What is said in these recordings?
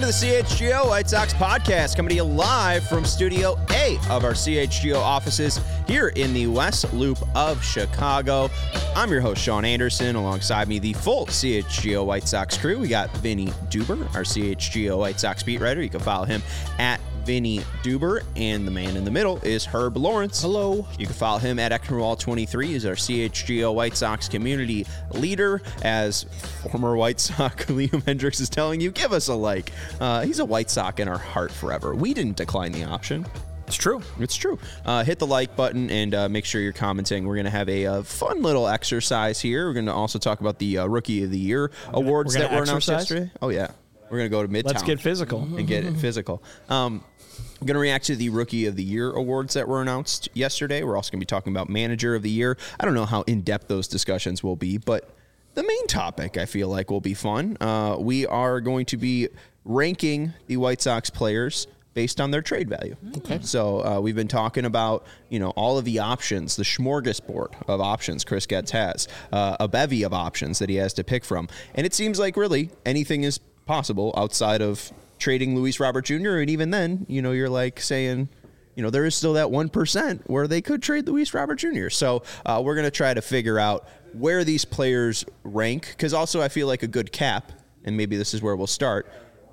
to the CHGO White Sox podcast, coming to you live from Studio A of our CHGO offices here in the West Loop of Chicago. I'm your host, Sean Anderson. Alongside me, the full CHGO White Sox crew. We got Vinny Duber, our CHGO White Sox beat writer. You can follow him at Vinny Duber, and the man in the middle is Herb Lawrence. Hello. You can follow him at Ecknerwall23. He's our CHGO White Sox community leader. As former White Sox Liam Hendriks is telling you, give us a like. He's a White Sox in our heart forever. We didn't decline the option. It's true. It's true. Hit the like button and make sure you're commenting. We're going to have a fun little exercise here. We're going to also talk about the Rookie of the Year awards that were announced yesterday. Oh, yeah. We're going to go to Midtown. Let's get physical. And get it physical. I'm going to react to the Rookie of the Year awards that were announced yesterday. We're also going to be talking about Manager of the Year. I don't know how in-depth those discussions will be, but the main topic I feel like will be fun. We are going to be ranking the White Sox players based on their trade value. Okay. So we've been talking about, all of the options, the smorgasbord of options Chris Getz has, a bevy of options that he has to pick from. And it seems like really anything is possible outside of trading Luis Robert Jr. And even then, you're like saying, there is still that 1% where they could trade Luis Robert Jr. So we're going to try to figure out where these players rank. Because also I feel like a good cap, and maybe this is where we'll start,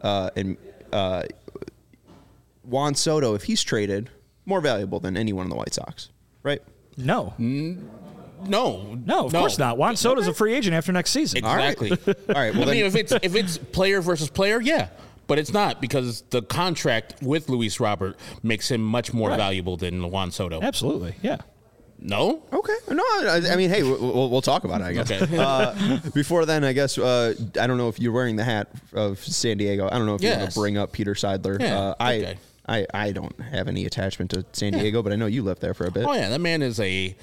Juan Soto, if he's traded, more valuable than anyone in the White Sox, right? No. No, of course not. Juan Soto's a free agent after next season. Exactly. All right. Well, if it's player versus player, yeah. But it's not, because the contract with Luis Robert makes him much more valuable than Juan Soto. Absolutely, yeah. No? Okay. No, I mean, hey, we'll talk about it, I guess. Okay. Before then, I guess, I don't know if you're wearing the hat of San Diego. I don't know if you want to bring up Peter Seidler. Yeah, okay. I don't have any attachment to San Diego, but I know you lived there for a bit. Oh, yeah. That man is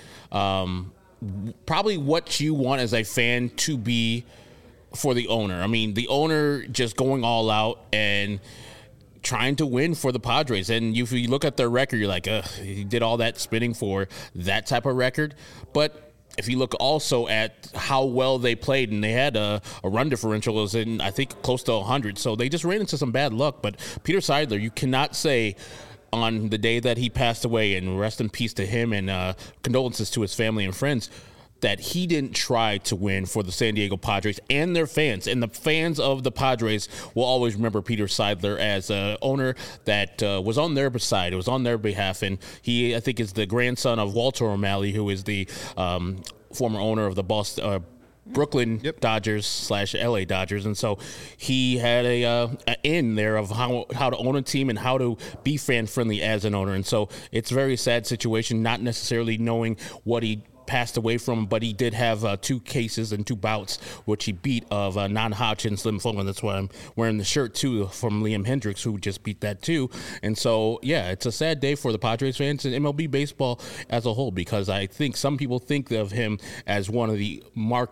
probably what you want as a fan to be for the owner. I mean, the owner just going all out and trying to win for the Padres. And if you look at their record, you're like, he did all that spinning for that type of record. But if you look also at how well they played, and they had a run differential was in, I think, close to 100. So they just ran into some bad luck. But Peter Seidler, you cannot say on the day that he passed away, and rest in peace to him, and condolences to his family and friends, that he didn't try to win for the San Diego Padres and their fans. And the fans of the Padres will always remember Peter Seidler as an owner that was on their side. It was on their behalf. And he, I think, is the grandson of Walter O'Malley, who is the former owner of the Brooklyn Dodgers / LA Dodgers. And so he had a in there of how to own a team and how to be fan friendly as an owner. And so it's a very sad situation, not necessarily knowing what he passed away from, but he did have 2 cases and 2 bouts, which he beat of non-Hodgkin's lymphoma. That's why I'm wearing the shirt too from Liam Hendriks, who just beat that too. And so, yeah, it's a sad day for the Padres fans and MLB baseball as a whole, because I think some people think of him as one of the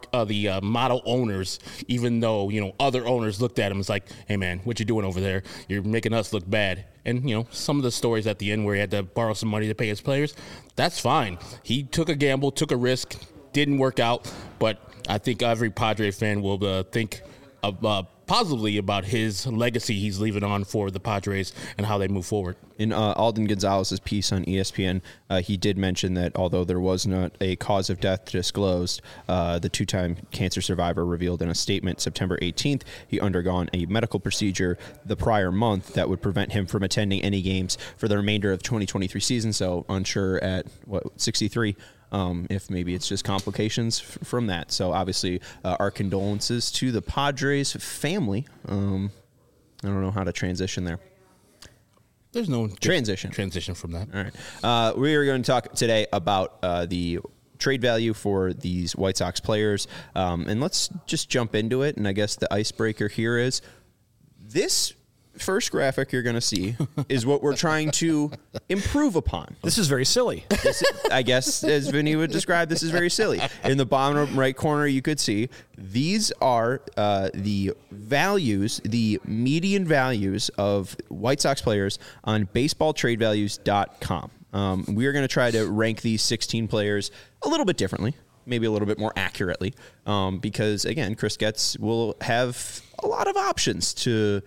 model owners, even though other owners looked at him as like, hey man, what you doing over there? You're making us look bad. And, some of the stories at the end where he had to borrow some money to pay his players, that's fine. He took a gamble, took a risk, didn't work out. But I think every Padre fan will think positively about his legacy he's leaving on for the Padres and how they move forward. In Alden Gonzalez's piece on ESPN, he did mention that although there was not a cause of death disclosed, the 2-time cancer survivor revealed in a statement September 18th he undergone a medical procedure the prior month that would prevent him from attending any games for the remainder of the 2023 season. So unsure at 63. If maybe it's just complications from that. So obviously our condolences to the Padres family. I don't know how to transition there. There's no transition from that. All right. We are going to talk today about the trade value for these White Sox players. And let's just jump into it. And I guess the icebreaker here is this first graphic you're going to see is what we're trying to improve upon. This is very silly. I guess, as Vinny would describe, this is very silly. In the bottom right corner, you could see these are the values, the median values of White Sox players on baseballtradevalues.com. We are going to try to rank these 16 players a little bit differently, maybe a little bit more accurately, because, again, Chris Getz will have a lot of options to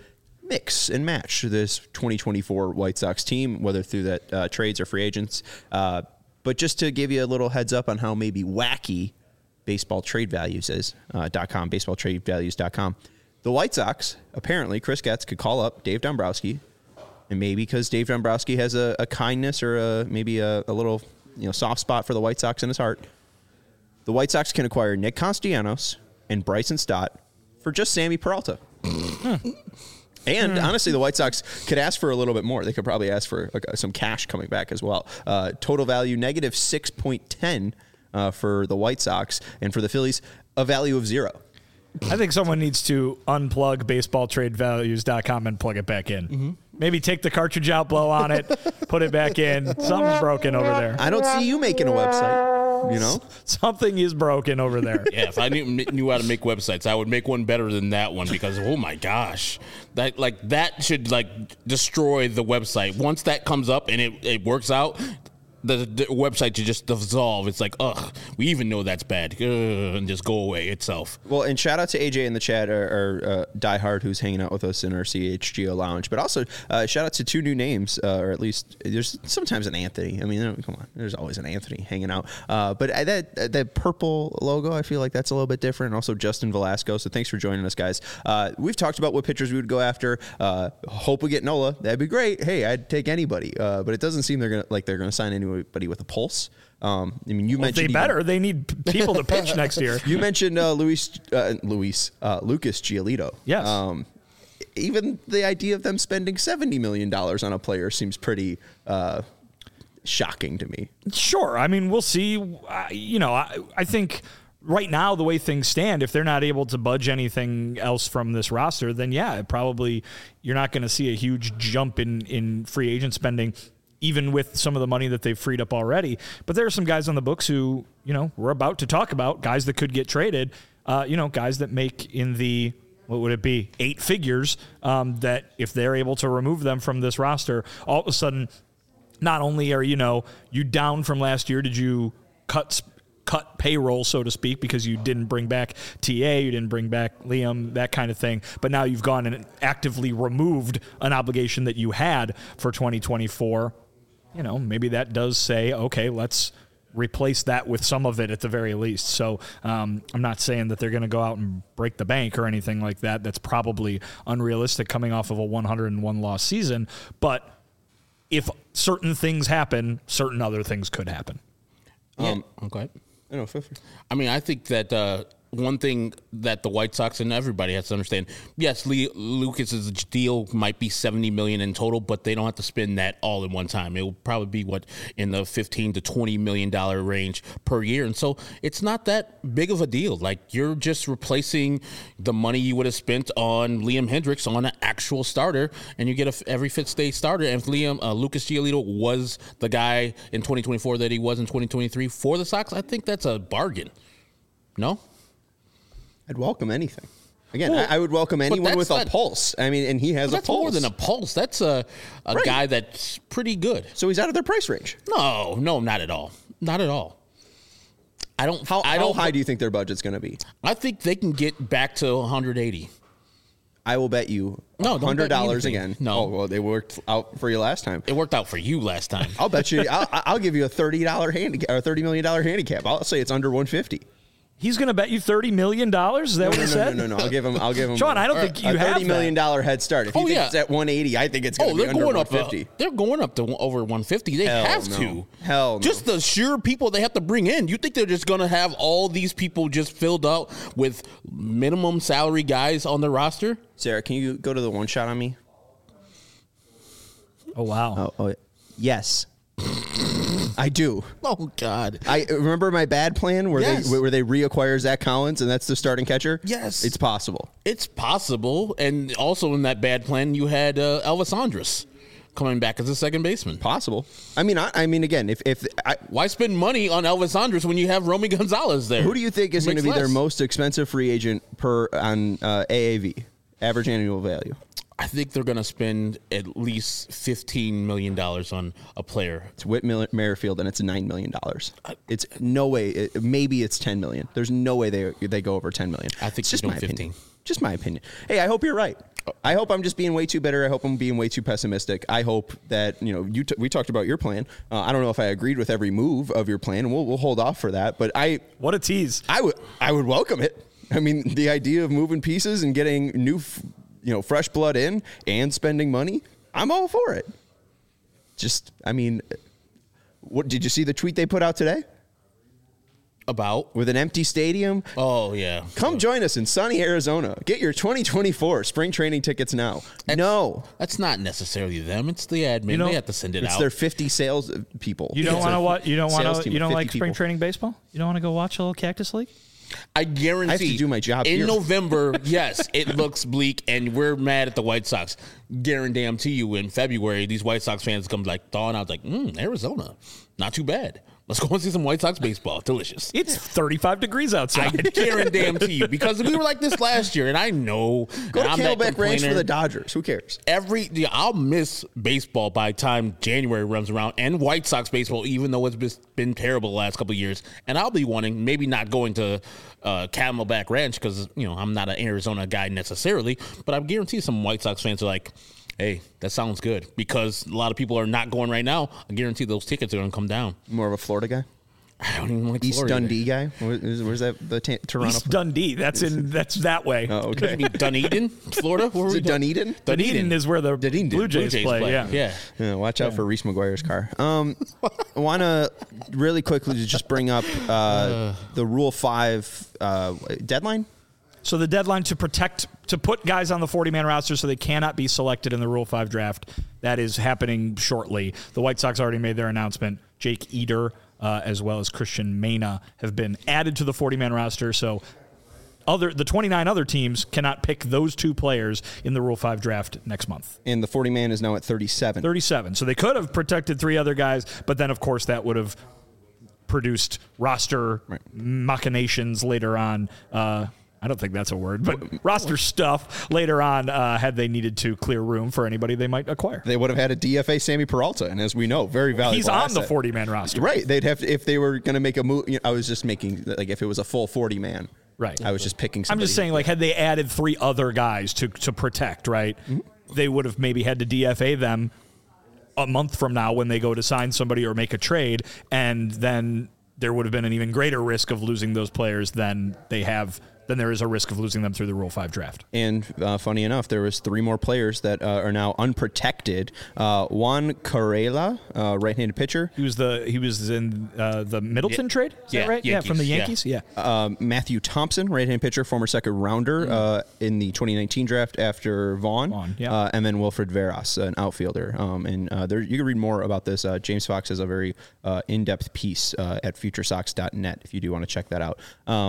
mix and match this 2024 White Sox team, whether through that trades or free agents. But just to give you a little heads up on how maybe wacky baseball trade values is, .com, baseballtradevalues.com. The White Sox, apparently, Chris Getz could call up Dave Dombrowski, and maybe because Dave Dombrowski has a kindness or maybe a little soft spot for the White Sox in his heart, the White Sox can acquire Nick Castellanos and Bryson Stott for just Sammy Peralta. And honestly, the White Sox could ask for a little bit more. They could probably ask for some cash coming back as well. Total value negative 6.10 for the White Sox, and for the Phillies, a value of 0. I think someone needs to unplug baseballtradevalues.com and plug it back in. Mm-hmm. Maybe take the cartridge out, blow on it, put it back in. Something's broken over there. I don't see you making a website, Something is broken over there. Yeah, if I knew how to make websites, I would make one better than that one because, oh my gosh, that should destroy the website. Once that comes up and it works out, the website should just dissolve. It's like, ugh, we even know that's bad, and just go away itself. Well, and shout out to AJ in the chat, or Die Hard, who's hanging out with us in our CHGO lounge. But also, shout out to 2 new names, or at least there's sometimes an Anthony. I mean, come on, there's always an Anthony hanging out. But that purple logo, I feel like that's a little bit different. And also Justin Velasco. So thanks for joining us, guys. We've talked about what pitchers we would go after. Hope we get Nola. That'd be great. Hey, I'd take anybody. But it doesn't seem they're gonna sign anybody with a pulse. I mean, you mentioned they need people to pitch next year. You mentioned Lucas Giolito. Yes. Even the idea of them spending $70 million on a player seems pretty shocking to me. Sure. I mean, we'll see. I think right now, the way things stand, if they're not able to budge anything else from this roster, then probably you're not going to see a huge jump in free agent spending, even with some of the money that they've freed up already. But there are some guys on the books who, we're about to talk about, guys that could get traded, guys that make in the, what would it be, 8 figures, that if they're able to remove them from this roster, all of a sudden, not only are, you down from last year, did you cut payroll, so to speak, because you didn't bring back TA, you didn't bring back Liam, that kind of thing. But now you've gone and actively removed an obligation that you had for 2024. Maybe that does say, okay, let's replace that with some of it at the very least. So I'm not saying that they're going to go out and break the bank or anything like that. That's probably unrealistic coming off of a 101 loss season. But if certain things happen, certain other things could happen. Okay. I mean, I think that one thing that the White Sox and everybody has to understand, yes, Lucas's deal might be $70 million in total, but they don't have to spend that all in one time. It will probably be in the $15 to $20 million range per year. And so it's not that big of a deal. Like, you're just replacing the money you would have spent on Liam Hendriks on an actual starter, and you get every fifth day starter. And if Lucas Giolito was the guy in 2024 that he was in 2023 for the Sox, I think that's a bargain. No? I'd welcome anything. Again, I would welcome anyone with a pulse. I mean, and he has a pulse. That's more than a pulse. That's a guy that's pretty good. So he's out of their price range. No, not at all. Not at all. How high do you think their budget's going to be? I think they can get back to 180. I will bet you $100 again. No. Oh, well, they worked out for you last time. It worked out for you last time. I'll bet you. I'll give you a $30 handicap or $30 million handicap. I'll say it's under 150. He's going to bet you $30 million? Is that what he said? No. I'll give him. Sean, I don't think you have $30 million head start. If you think it's at 180, I think it's going to be under 150. They're going up to over 150. They have to. Hell no. Just the sheer people they have to bring in. You think they're just going to have all these people just filled out with minimum salary guys on the roster? Sarah, can you go to the one shot on me? Oh, wow. Oh yes. I do. Oh God! I remember my bad plan where they reacquire Zach Collins and that's the starting catcher. Yes, it's possible. It's possible, and also in that bad plan, you had Elvis Andrus coming back as a second baseman. Possible. I mean, again, why spend money on Elvis Andrus when you have Romy Gonzalez there? Who do you think is going to be their most expensive free agent on AAV, average annual value? I think they're going to spend at least $15 million on a player. It's Whit Merrifield, and it's $9 million. It's no way. Maybe it's $10 million. There's no way they go over $10 million. I think it's just my 15. opinion. Just my opinion. Hey, I hope you're right. I hope I'm just being way too bitter. I hope I'm being way too pessimistic. I hope that, we talked about your plan. I don't know if I agreed with every move of your plan, and we'll hold off for that. But what a tease. I would welcome it. I mean, the idea of moving pieces and getting new, fresh blood in and spending money, I'm all for it. What did you see the tweet they put out today? About? With an empty stadium? Oh, yeah. Come join us in sunny Arizona. Get your 2024 spring training tickets now. That's not necessarily them. It's the admin. They have to send it out. It's their 50 sales people. You don't want to watch? You don't want to? You don't like people. spring training baseball? You don't want to go watch a little Cactus League? I guarantee. I have to do my job in here. November. Yes, it looks bleak, and we're mad at the White Sox. Guarantee you, in February, these White Sox fans come thawing out Arizona, not too bad. Let's go and see some White Sox baseball. Delicious. It's 35 degrees outside. I guarantee you, because we were like this last year, and I know. Go to Camelback Ranch for the Dodgers. Who cares? I'll miss baseball by the time January runs around, and White Sox baseball, even though it's been terrible the last couple of years. And I'll be wanting, maybe not going to Camelback Ranch because I'm not an Arizona guy necessarily, but I guarantee some White Sox fans are like, hey, that sounds good, because a lot of people are not going right now. I guarantee those tickets are going to come down. More of a Florida guy? I don't even like East Florida Dundee guy? Where's that? The Toronto? East Dundee. That's that way. Oh, okay. Dunedin, Florida? Is it Dunedin? Dunedin is where the Blue Jays play. Yeah. Watch out for Reese McGuire's car. I want to really quickly just bring up the Rule 5 deadline. So the deadline to put guys on the 40-man roster so they cannot be selected in the Rule 5 draft, that is happening shortly. The White Sox already made their announcement. Jake Eder, as well as Christian Mena, have been added to the 40-man roster. So the 29 other teams cannot pick those two players in the Rule 5 draft next month. And the 40-man is now at 37. 37. So they could have protected 3 other guys, but then, of course, that would have produced roster machinations later on. I don't think that's a word, but roster stuff later on had they needed to clear room for anybody they might acquire. They would have had a DFA Sammy Peralta, and as we know, very valuable He's on asset. the 40-man roster. Right. They'd have to, if they were going to make a move. I was just making, if it was a full 40-man. Right. I was just picking somebody. I'm just saying, had they added 3 other guys to protect, right, they would have maybe had to DFA them a month from now when they go to sign somebody or make a trade, and then there would have been an even greater risk of losing those players than there is a risk of losing them through the Rule 5 draft. And funny enough, there was 3 more players that are now unprotected. Juan Carrera, right-handed pitcher. He was in the Middleton trade? Is that right? Yankees, from the Yankees? Yeah. Matthew Thompson, right-handed pitcher, former second rounder in the 2019 draft after Vaughn. And then Wilfred Veras, an outfielder. You can read more about this. James Fox has a very in-depth piece at futuresox.net if you do want to check that out.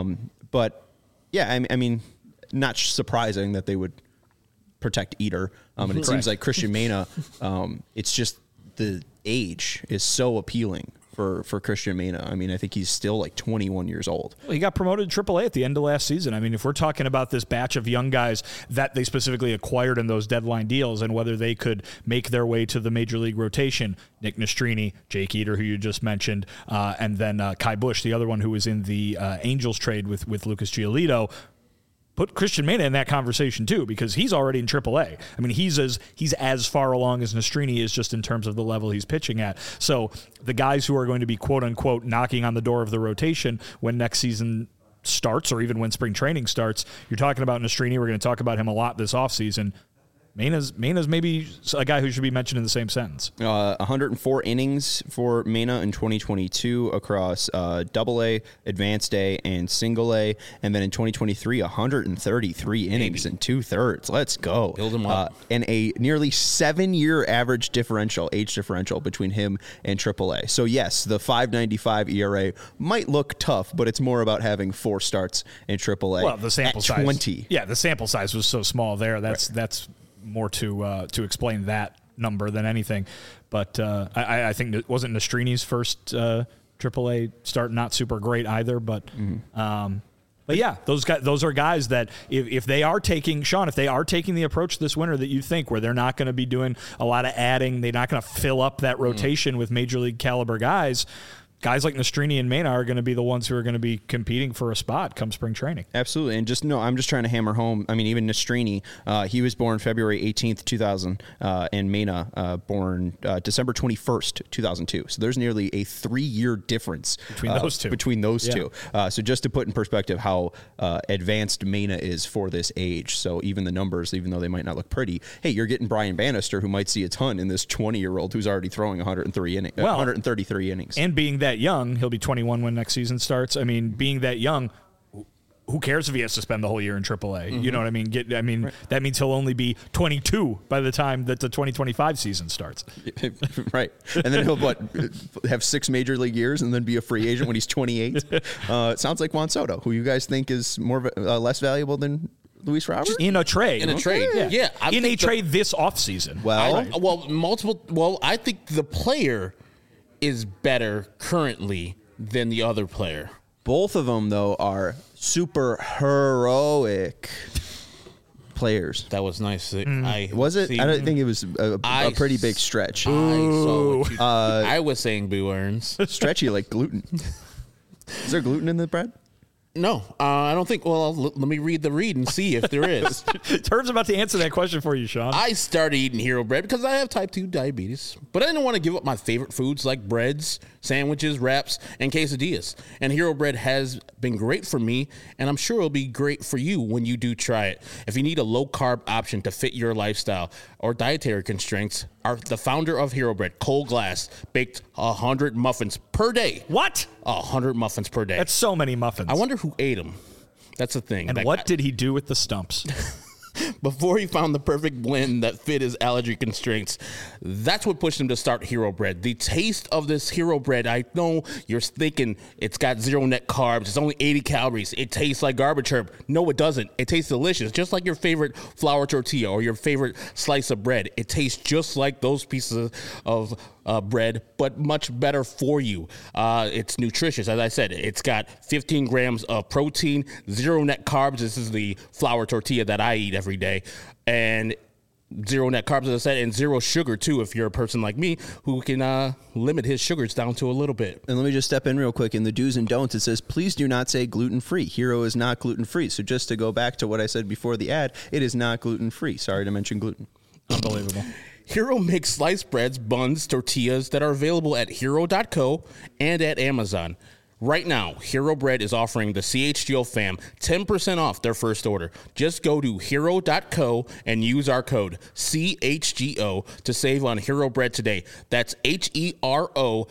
Yeah, I mean, not surprising that they would protect Eder. And it seems like Christian Mena, it's just the age is so appealing for Christian Mena. I mean, I think he's still 21 years old. Well, he got promoted to AAA at the end of last season. I mean, if we're talking about this batch of young guys that they specifically acquired in those deadline deals and whether they could make their way to the major league rotation, Nick Nastrini, Jake Eder, who you just mentioned, and then Kai Busch, the other one who was in the Angels trade with Lucas Giolito, put Christian Mena in that conversation too, because he's already in AAA. I mean, he's as far along as Nastrini is just in terms of the level he's pitching at. So the guys who are going to be quote unquote knocking on the door of the rotation when next season starts, or even when spring training starts, you're talking about Nastrini. We're going to talk about him a lot this offseason. Mena's maybe a guy who should be mentioned in the same sentence. 104 innings for Mena in 2022 across AA, Advanced A, and Single A. And then in 2023, 133 innings and 2/3. Let's go. Build him up. And a nearly 7-year average age differential between him and AAA. So, yes, the 5.95 ERA might look tough, but it's more about having 4 starts in AAA. Well, the sample size. 20. Yeah, the sample size was so small there. That's more to explain that number than anything. But I think it wasn't Nastrini's first AAA start, not super great either. But But yeah, those are guys that if they are taking the approach this winter that you think, where they're not going to be doing a lot of adding, they're not going to fill up that rotation with major league caliber guys like Nastrini and Mena are going to be the ones who are going to be competing for a spot come spring training. Absolutely. And I'm just trying to hammer home. I mean, even Nastrini, he was born February 18th, 2000, and Mena born December 21st, 2002. So there's nearly a 3-year difference between those two. So just to put in perspective how advanced Mena is for this age. So even the numbers, even though they might not look pretty, hey, you're getting Brian Bannister, who might see a ton in this 20-year-old who's already throwing 133 innings. And being that young, he'll be 21 when next season starts. I mean, being that young, who cares if he has to spend the whole year in AAA? You know what I mean? Right. That means he'll only be 22 by the time that the 2025 season starts. Right. And then he'll have 6 major league years and then be a free agent when he's 28. It sounds like Juan Soto, who you guys think is less valuable than Luis Robert? In a trade. Yeah. In a trade this offseason. I think the player is better currently than the other player. Both of them, though, are super heroic players. That was nice. Was it? I don't think it was a pretty big stretch. I was saying Boo Earns. Stretchy like gluten. Is there gluten in the bread? No, I don't think. Well, let me read the read and see if there is. Turner's about to answer that question for you, Sean. I started eating Hero Bread because I have type 2 diabetes, but I didn't want to give up my favorite foods like breads, sandwiches, wraps, and quesadillas. And Hero Bread has been great for me, and I'm sure it'll be great for you when you do try it. If you need a low-carb option to fit your lifestyle or dietary constraints, the founder of Hero Bread, Cole Glass, baked 100 muffins per day. What? 100 muffins per day. That's so many muffins. I wonder who ate them. That's the thing. And what did he do with the stumps? Before he found the perfect blend that fit his allergy constraints, that's what pushed him to start Hero Bread. The taste of this Hero Bread, I know you're thinking it's got 0 net carbs, it's only 80 calories, it tastes like garbage herb. No, it doesn't. It tastes delicious, just like your favorite flour tortilla or your favorite slice of bread. It tastes just like those pieces of bread, but much better for you. It's nutritious. As I said, it's got 15 grams of protein, 0 net carbs. This is the flour tortilla that I eat every day. And 0 net carbs, as I said, and 0 sugar, too, if you're a person like me who can limit his sugars down to a little bit. And let me just step in real quick. In the do's and don'ts, it says, please do not say gluten-free. Hero is not gluten-free. So just to go back to what I said before the ad, it is not gluten-free. Sorry to mention gluten. Unbelievable. Hero makes sliced breads, buns, tortillas that are available at hero.co and at Amazon. Right now, Hero Bread is offering the CHGO fam 10% off their first order. Just go to hero.co and use our code CHGO to save on Hero Bread today. That's HERO.co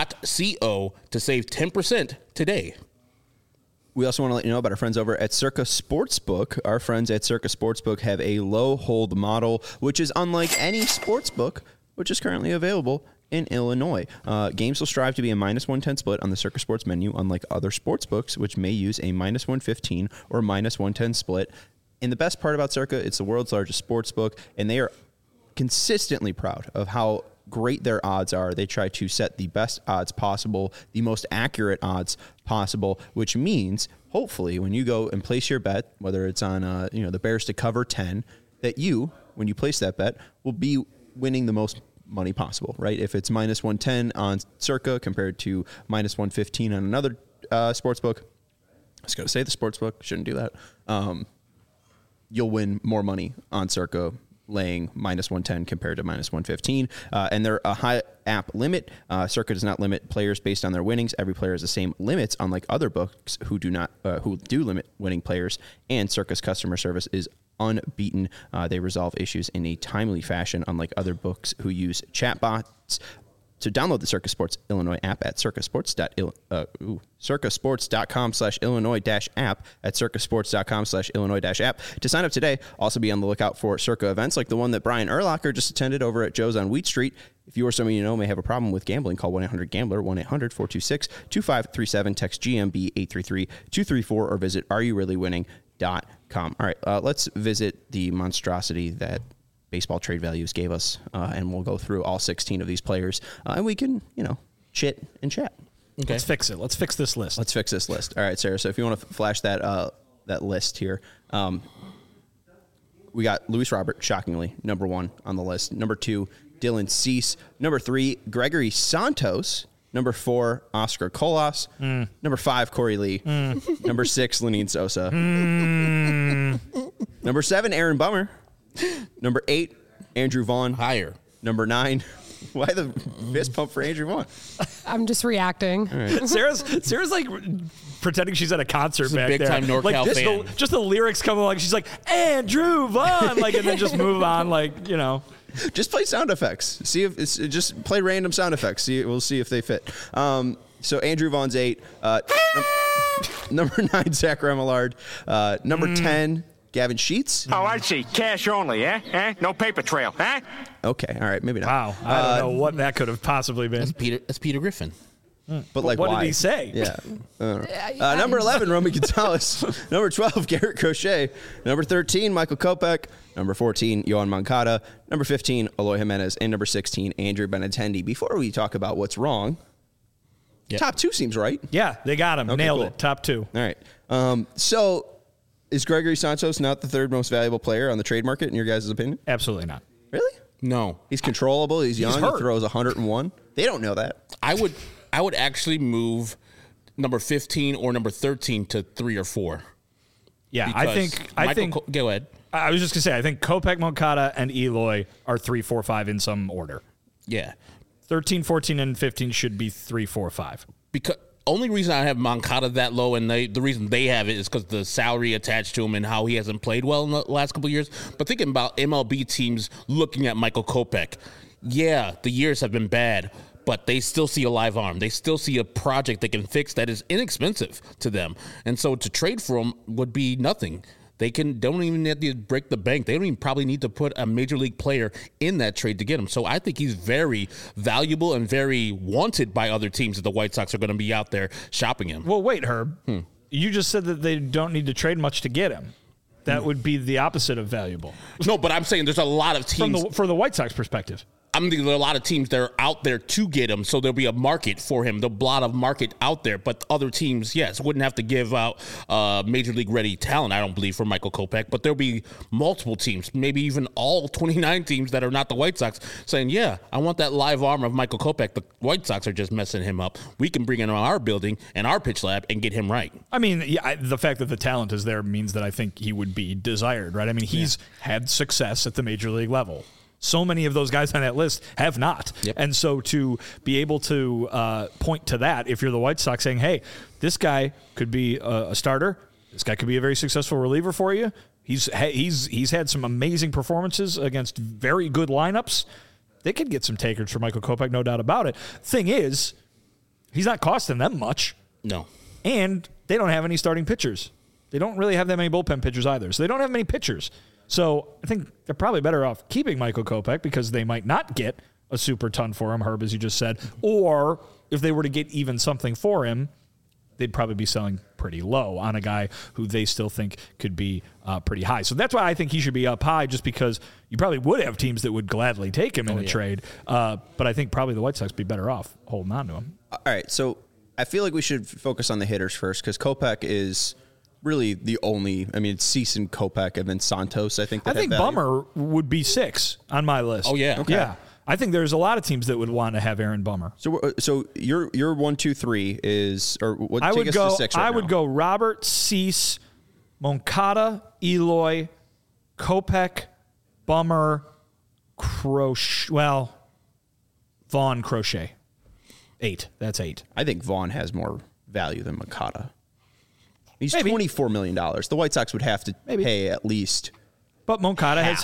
to save 10% today. We also want to let you know about our friends over at Circa Sportsbook. Our friends at Circa Sportsbook have a low hold model, which is unlike any sportsbook, which is currently available in Illinois. Games will strive to be a -110 split on the Circa Sports menu, unlike other sportsbooks, which may use a -115 or -110 split. And the best part about Circa, it's the world's largest sportsbook, and they are consistently proud of how great their odds are. They try to set the best odds possible, the most accurate odds possible, which means hopefully when you go and place your bet, whether it's on the Bears to cover 10, that you, when you place that bet, will be winning the most money possible, right? If it's -110 on Circa compared to -115 on another sportsbook, I was going to say the sportsbook, shouldn't do that. You'll win more money on Circa laying -110 compared to -115. And they're a high app limit. Circa does not limit players based on their winnings. Every player has the same limits, unlike other books who do limit winning players. And Circa's customer service is unbeaten. They resolve issues in a timely fashion, unlike other books who use chatbots. So download the Circa Sports Illinois app at circasports.com/Illinois-app at circasports.com/Illinois-app to sign up today. Also be on the lookout for Circa events like the one that Brian Urlacher just attended over at Joe's on Wheat Street. If you or someone you know may have a problem with gambling, call 1-800-GAMBLER, 1-800-426-2537, text GMB 833-234, or visit areyoureallywinning.com. All right, let's visit the monstrosity that Baseball Trade Values gave us, and we'll go through all 16 of these players, and we can, chit and chat. Okay. Let's fix it. Let's fix this list. Let's fix this list. All right, Sarah. So if you want to flash that list here, we got Luis Robert, shockingly, number 1 on the list. Number 2, Dylan Cease. Number 3, Gregory Santos. Number 4, Oscar Colas. Number 5, Corey Lee. Number 6, Lenine Sosa. Number 7, Aaron Bummer. Number 8, Andrew Vaughn. Higher. Number 9, why the fist pump for Andrew Vaughn? I'm just reacting. Sarah's like pretending she's at a concert back big there. time NorCal like fan. Just the lyrics come along. She's like, Andrew Vaughn, like, and then just move on, like, you know. Just play sound effects. See if it's just play random sound effects. We'll see if they fit. So Andrew Vaughn's 8. Number 9, Zach Remillard. Number 10, Gavin Sheets. Oh, I see. Cash only, eh? No paper trail, eh? Okay, all right, maybe not. Wow, I don't know what that could have possibly been. That's Peter Griffin. But like, what why? did he say? Yeah. Number 11, Romy Gonzalez. Number 12, Garrett Crochet. Number 13, Michael Kopech. Number 14, Yohan Moncada. Number 15, Eloy Jimenez. And number 16, Andrew Benintendi. Before we talk about what's wrong, top 2 seems right. Yeah, they got him. Okay, Nailed cool. it. Top 2. All right. So is Gregory Santos not the 3rd most valuable player on the trade market in your guys' opinion? Absolutely not. Really? No. He's controllable. He's young. hurt. He throws 101. They don't know that. I would actually move number 15 or number 13 to 3 or 4. Yeah, I think. Go ahead. I was just gonna say, I think Kopech, Moncada, and Eloy are 3, 4, 5 in some order. Yeah. 13, 14, and 15 should be 3, 4, 5. Because only reason I have Moncada that low, and the reason they have it is because the salary attached to him and how he hasn't played well in the last couple of years. But thinking about MLB teams looking at Michael Kopech, yeah, the years have been bad, but they still see a live arm. They still see a project they can fix that is inexpensive to them. And so to trade for him would be nothing. They don't even have to break the bank. They don't even probably need to put a major league player in that trade to get him. So I think he's very valuable and very wanted by other teams that the White Sox are going to be out there shopping him. Well, wait, Herb. You just said that they don't need to trade much to get him. That would be the opposite of valuable. No, but I'm saying there's a lot of teams. For the White Sox perspective. I mean, there are a lot of teams that are out there to get him, so there'll be a market for him. There'll be a lot of market out there, but other teams, yes, wouldn't have to give out major league ready talent, I don't believe, for Michael Kopech, but there'll be multiple teams, maybe even all 29 teams that are not the White Sox, saying, yeah, I want that live arm of Michael Kopech. The White Sox are just messing him up. We can bring him in our building and our pitch lab and get him right. I mean, yeah, the fact that the talent is there means that I think he would be desired, right? I mean, he's had success at the major league level. So many of those guys on that list have not. Yep. And so to be able to point to that, if you're the White Sox saying, hey, this guy could be a starter, this guy could be a very successful reliever for you. He's had some amazing performances against very good lineups. They could get some takers for Michael Kopech, no doubt about it. Thing is, he's not costing them much. No. And they don't have any starting pitchers. They don't really have that many bullpen pitchers either. So they don't have many pitchers. So I think they're probably better off keeping Michael Kopech because they might not get a super ton for him, Herb, as you just said. Or if they were to get even something for him, they'd probably be selling pretty low on a guy who they still think could be pretty high. So that's why I think he should be up high, just because you probably would have teams that would gladly take him in a trade. But I think probably the White Sox would be better off holding on to him. All right, so I feel like we should focus on the hitters first because Kopech is really the only. I mean, it's Cease and Kopech and then Santos. I think Bummer would be 6 on my list. Oh yeah, okay. Yeah. I think there's a lot of teams that would want to have Aaron Bummer. So your 1, 2, 3 is, or what? I Take would us go. to 6 right I would now. go Robert, Cease, Moncada, Eloy, Kopech, Bummer, Crochet. Well, Vaughn, Crochet. 8. That's 8. I think Vaughn has more value than Moncada. He's Maybe. $24 million. The White Sox would have to pay at least. But Moncada has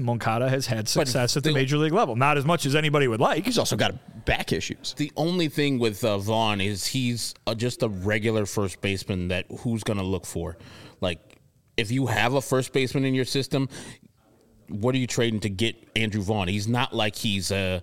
had success at the major league level. Not as much as anybody would like. He's also got back issues. The only thing with Vaughn is he's just a regular first baseman that who's going to look for. Like, if you have a first baseman in your system, what are you trading to get Andrew Vaughn? He's not like he's a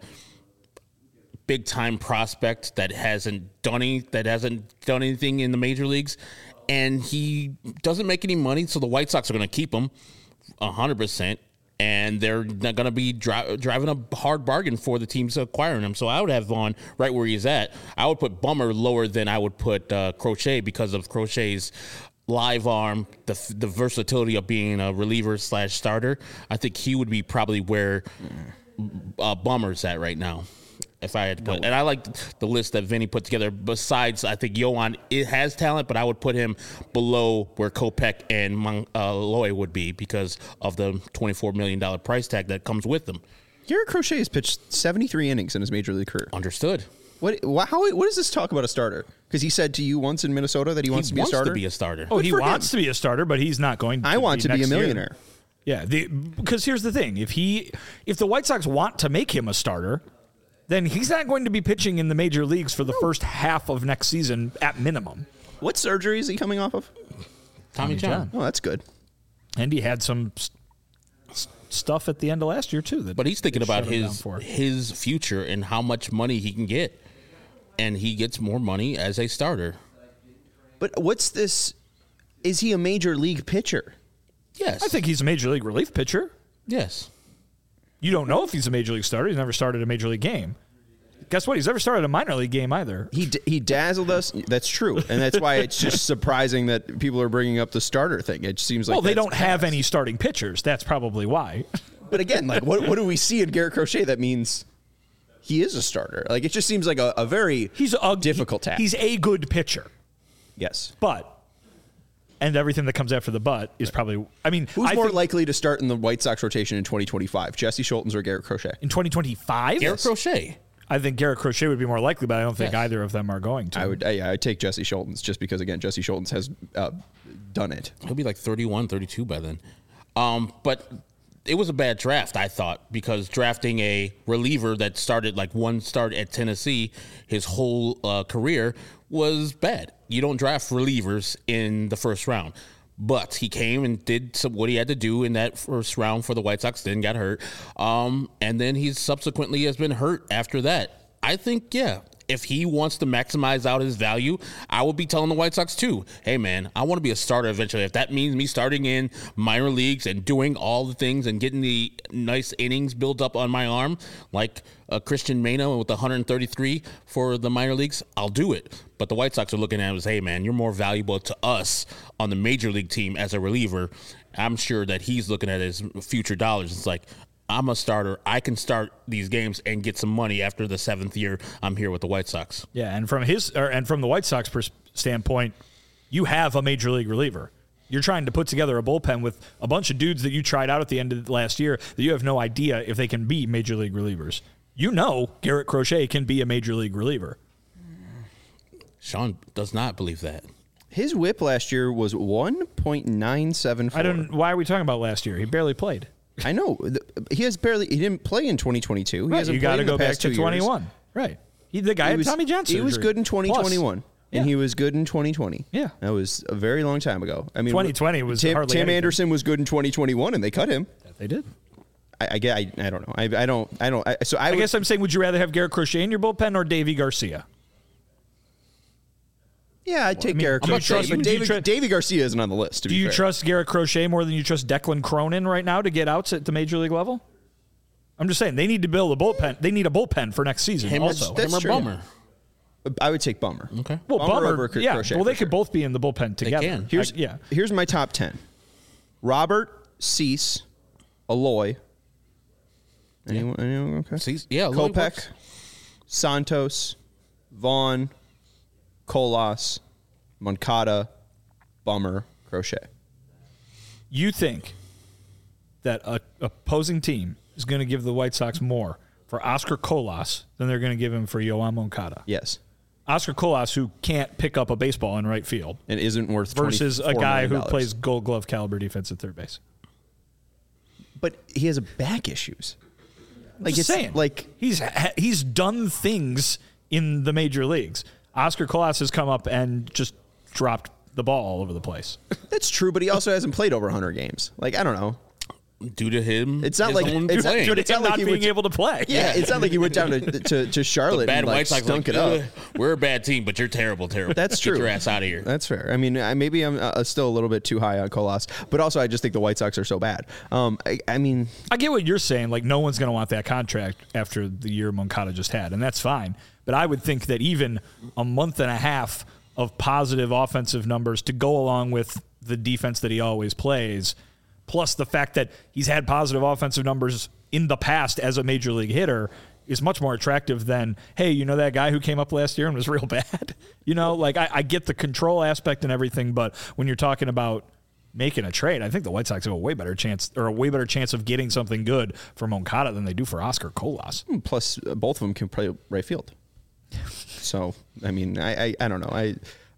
big-time prospect that hasn't done anything in the major leagues, and he doesn't make any money, so the White Sox are going to keep him 100%. and they're not going to be driving a hard bargain for the teams acquiring him. So I would have Vaughn right where he's at. I would put Bummer lower than I would put Crochet because of Crochet's live arm, the versatility of being a reliever / starter. I think he would be probably where Bummer's at right now. If I had to put, and I like the list that Vinny put together. Besides, I think Yohan, it has talent, but I would put him below where Kopech and Loy would be because of the $24 million price tag that comes with them. Garrett Crochet has pitched 73 innings in his major league career. Understood. What does this talk about a starter? Because he said to you once in Minnesota that he wants to be a starter. Oh, he wants to be a starter, but he's not going to. I want to be a millionaire. Yeah, because here's the thing: if the White Sox want to make him a starter, then he's not going to be pitching in the major leagues for the first half of next season at minimum. What surgery is he coming off of? Tommy John. Oh, that's good. And he had some stuff at the end of last year too. But he's thinking about his future and how much money he can get, and he gets more money as a starter. But what's this? Is he a major league pitcher? Yes, I think he's a major league relief pitcher. Yes. You don't know if he's a major league starter. He's never started a major league game. Guess what? He's never started a minor league game either. He dazzled us. That's true, and that's why it's just surprising that people are bringing up the starter thing. It seems like they don't have any starting pitchers. That's probably why. But again, like what do we see in Garrett Crochet that means he is a starter? Like it just seems like a very difficult task. He's a good pitcher. Yes, and everything that comes after the but is probably. I mean, who's more likely to start in the White Sox rotation in 2025? Jesse Schultz or Garrett Crochet? In 2025? Garrett Crochet. I think Garrett Crochet would be more likely, but I don't think either of them are going to. I'd take Jesse Schultz just because, again, Jesse Schultz has done it. He'll be like 31, 32 by then. But it was a bad draft, I thought, because drafting a reliever that started like one start at Tennessee his whole career was bad. You don't draft relievers in the first round. But he came and did what he had to do in that first round for the White Sox, then got hurt. And then he subsequently has been hurt after that. I think, if he wants to maximize out his value, I would be telling the White Sox too, hey man, I want to be a starter eventually. If that means me starting in minor leagues and doing all the things and getting the nice innings built up on my arm, like Christian Mano with 133 for the minor leagues, I'll do it. But the White Sox are looking at it as, hey man, you're more valuable to us on the major league team as a reliever. I'm sure that he's looking at his future dollars. It's like, I'm a starter. I can start these games and get some money after the 7th year I'm here with the White Sox. Yeah, and from the White Sox standpoint, you have a major league reliever. You're trying to put together a bullpen with a bunch of dudes that you tried out at the end of last year that you have no idea if they can be major league relievers. You know Garrett Crochet can be a major league reliever. Sean does not believe that. His whip last year was 1.974. Why are we talking about last year? He barely played. I know. He didn't play in 2022. Right, you got to go back to 21. Right. The guy had Tommy John surgery. He was good in 2021. Plus. And he was good in 2020. Yeah. That was a very long time ago. I mean, 2020 was hardly Tim anything. Anderson was good in 2021, and they cut him. They did. I don't know. I guess I'm saying, would you rather have Garrett Crochet in your bullpen or Davey Garcia? Yeah, I'd take Garrett Crochet. But Davey Garcia isn't on the list. Do you trust Garrett Crochet more than you trust Declan Cronin right now to get outs at the major league level? I'm just saying they need to build a bullpen. They need a bullpen for next season. Him or Bummer. I would take Bummer. Okay. Well, Bummer over Crochet. Well, they could both be in the bullpen together. They can. Here's my top 10. Robert, Cease, Aloy. Anyone okay? Cease, yeah. Kopech, Santos, Vaughn, Colas, Moncada, Bummer, Crochet. You think that a opposing team is going to give the White Sox more for Oscar Colas than they're going to give him for Yoan Moncada? Yes. Oscar Colas, who can't pick up a baseball in right field, and isn't worth versus a guy who million. plays Gold Glove caliber defense at third base. But he has back issues. Like it's saying, like he's done things in the major leagues. Oscar Colas has come up and just dropped the ball all over the place. That's true, but he also hasn't played over 100 games. Like, I don't know. Due to him, It's not his like own it's playing. not, it's Him not like not he being went, able to play. Yeah, it's not like he went down to Charlotte bad and like White Sox stunk like, it up. We're a bad team, but you're terrible. That's Get true. your ass out of here. That's fair. I mean, maybe I'm still a little bit too high on Colas, but also I just think the White Sox are so bad. I mean, I get what you're saying. Like, no one's going to want that contract after the year Moncada just had, and that's fine. But I would think that even a month and a half of positive offensive numbers to go along with the defense that he always plays, plus the fact that he's had positive offensive numbers in the past as a major league hitter, is much more attractive than, hey, you know that guy who came up last year and was real bad? Like I get the control aspect and everything, but when you're talking about making a trade, I think the White Sox have a way better chance of getting something good for Moncada than they do for Oscar Colas. plus both of them can play right field. So, I mean, I don't know.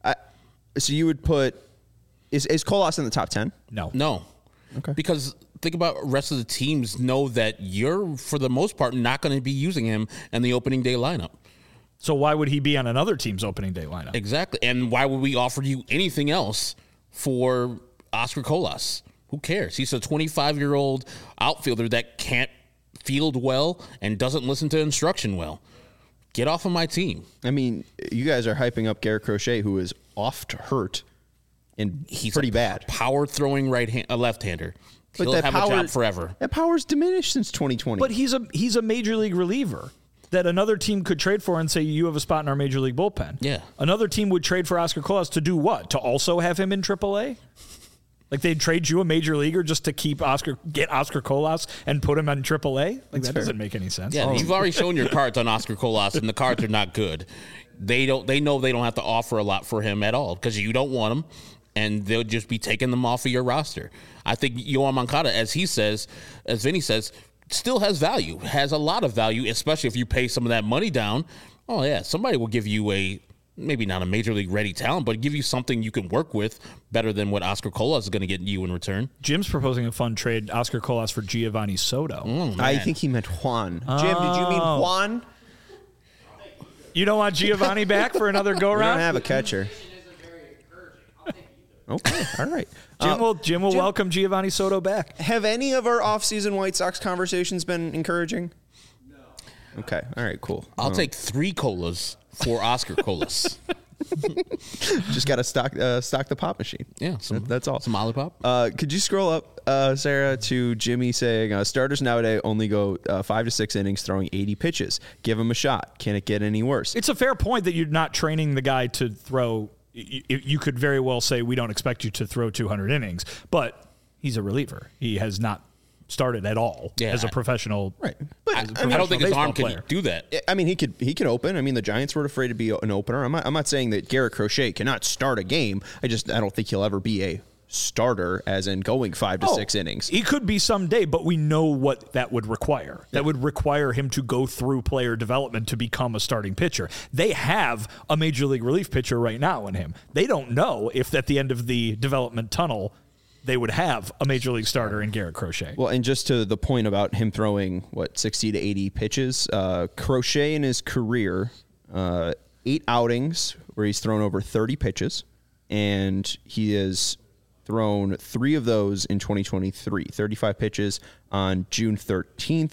So you would put, is Colas in the top 10? No. Okay. Because think about rest of the teams know that you're, for the most part, not going to be using him in the opening day lineup. So why would he be on another team's opening day lineup? Exactly. And why would we offer you anything else for Oscar Colas? Who cares? He's a 25-year-old outfielder that can't field well and doesn't listen to instruction well. Get off of my team. I mean, you guys are hyping up Garrett Crochet, who is oft hurt and He's pretty a bad. Power throwing left-hander. But He'll that have a job forever. That power's diminished since 2020. But he's a major league reliever that another team could trade for and say, you have a spot in our major league bullpen. Yeah. Another team would trade for Oscar Colas to do what? To also have him in AAA? Like they'd trade you a major leaguer just to get Oscar Colas and put him on AAA? Like that doesn't make any sense. Yeah, you've already shown your cards on Oscar Colas, and the cards are not good. They know they don't have to offer a lot for him at all because you don't want him, and they'll just be taking them off of your roster. I think Yoan Moncada, as Vinny says, still has value, has a lot of value, especially if you pay some of that money down. Oh yeah, somebody will give you maybe not a major league ready talent, but give you something you can work with better than what Oscar Colas is going to get you in return. Jim's proposing a fun trade, Oscar Colas for Giovanni Soto. I think he meant Juan. Jim, did you mean Juan? You don't want Giovanni back for another We don't go-round? have a catcher. Okay, all right. Jim will welcome Giovanni Soto back. Have any of our off-season White Sox conversations been encouraging? No. Okay, all right, cool. I'll take 3 colas for Oscar Colas. Just got to stock the pop machine. Yeah, that's all. Some Olipop. Could you scroll up, Sarah, to Jimmy saying starters nowadays only go 5 to 6 innings throwing 80 pitches. Give him a shot. Can it get any worse? It's a fair point that you're not training the guy to throw. You could very well say we don't expect you to throw 200 innings, but he's a reliever. He has not started at all as a professional. Right. But I don't think his arm can do that. I mean, he could open. I mean, the Giants weren't afraid to be an opener. I'm not saying that Garrett Crochet cannot start a game. I don't think he'll ever be a starter, as in going 5 to 6 innings. He could be someday, but we know what that would require. Yeah. That would require him to go through player development to become a starting pitcher. They have a major league relief pitcher right now in him. They don't know if at the end of the development tunnel they would have a major league starter in Garrett Crochet. Well, and just to the point about him throwing 60 to 80 pitches, Crochet in his career, 8 outings where he's thrown over 30 pitches, and he has thrown 3 of those in 2023. 35 pitches on June 13th,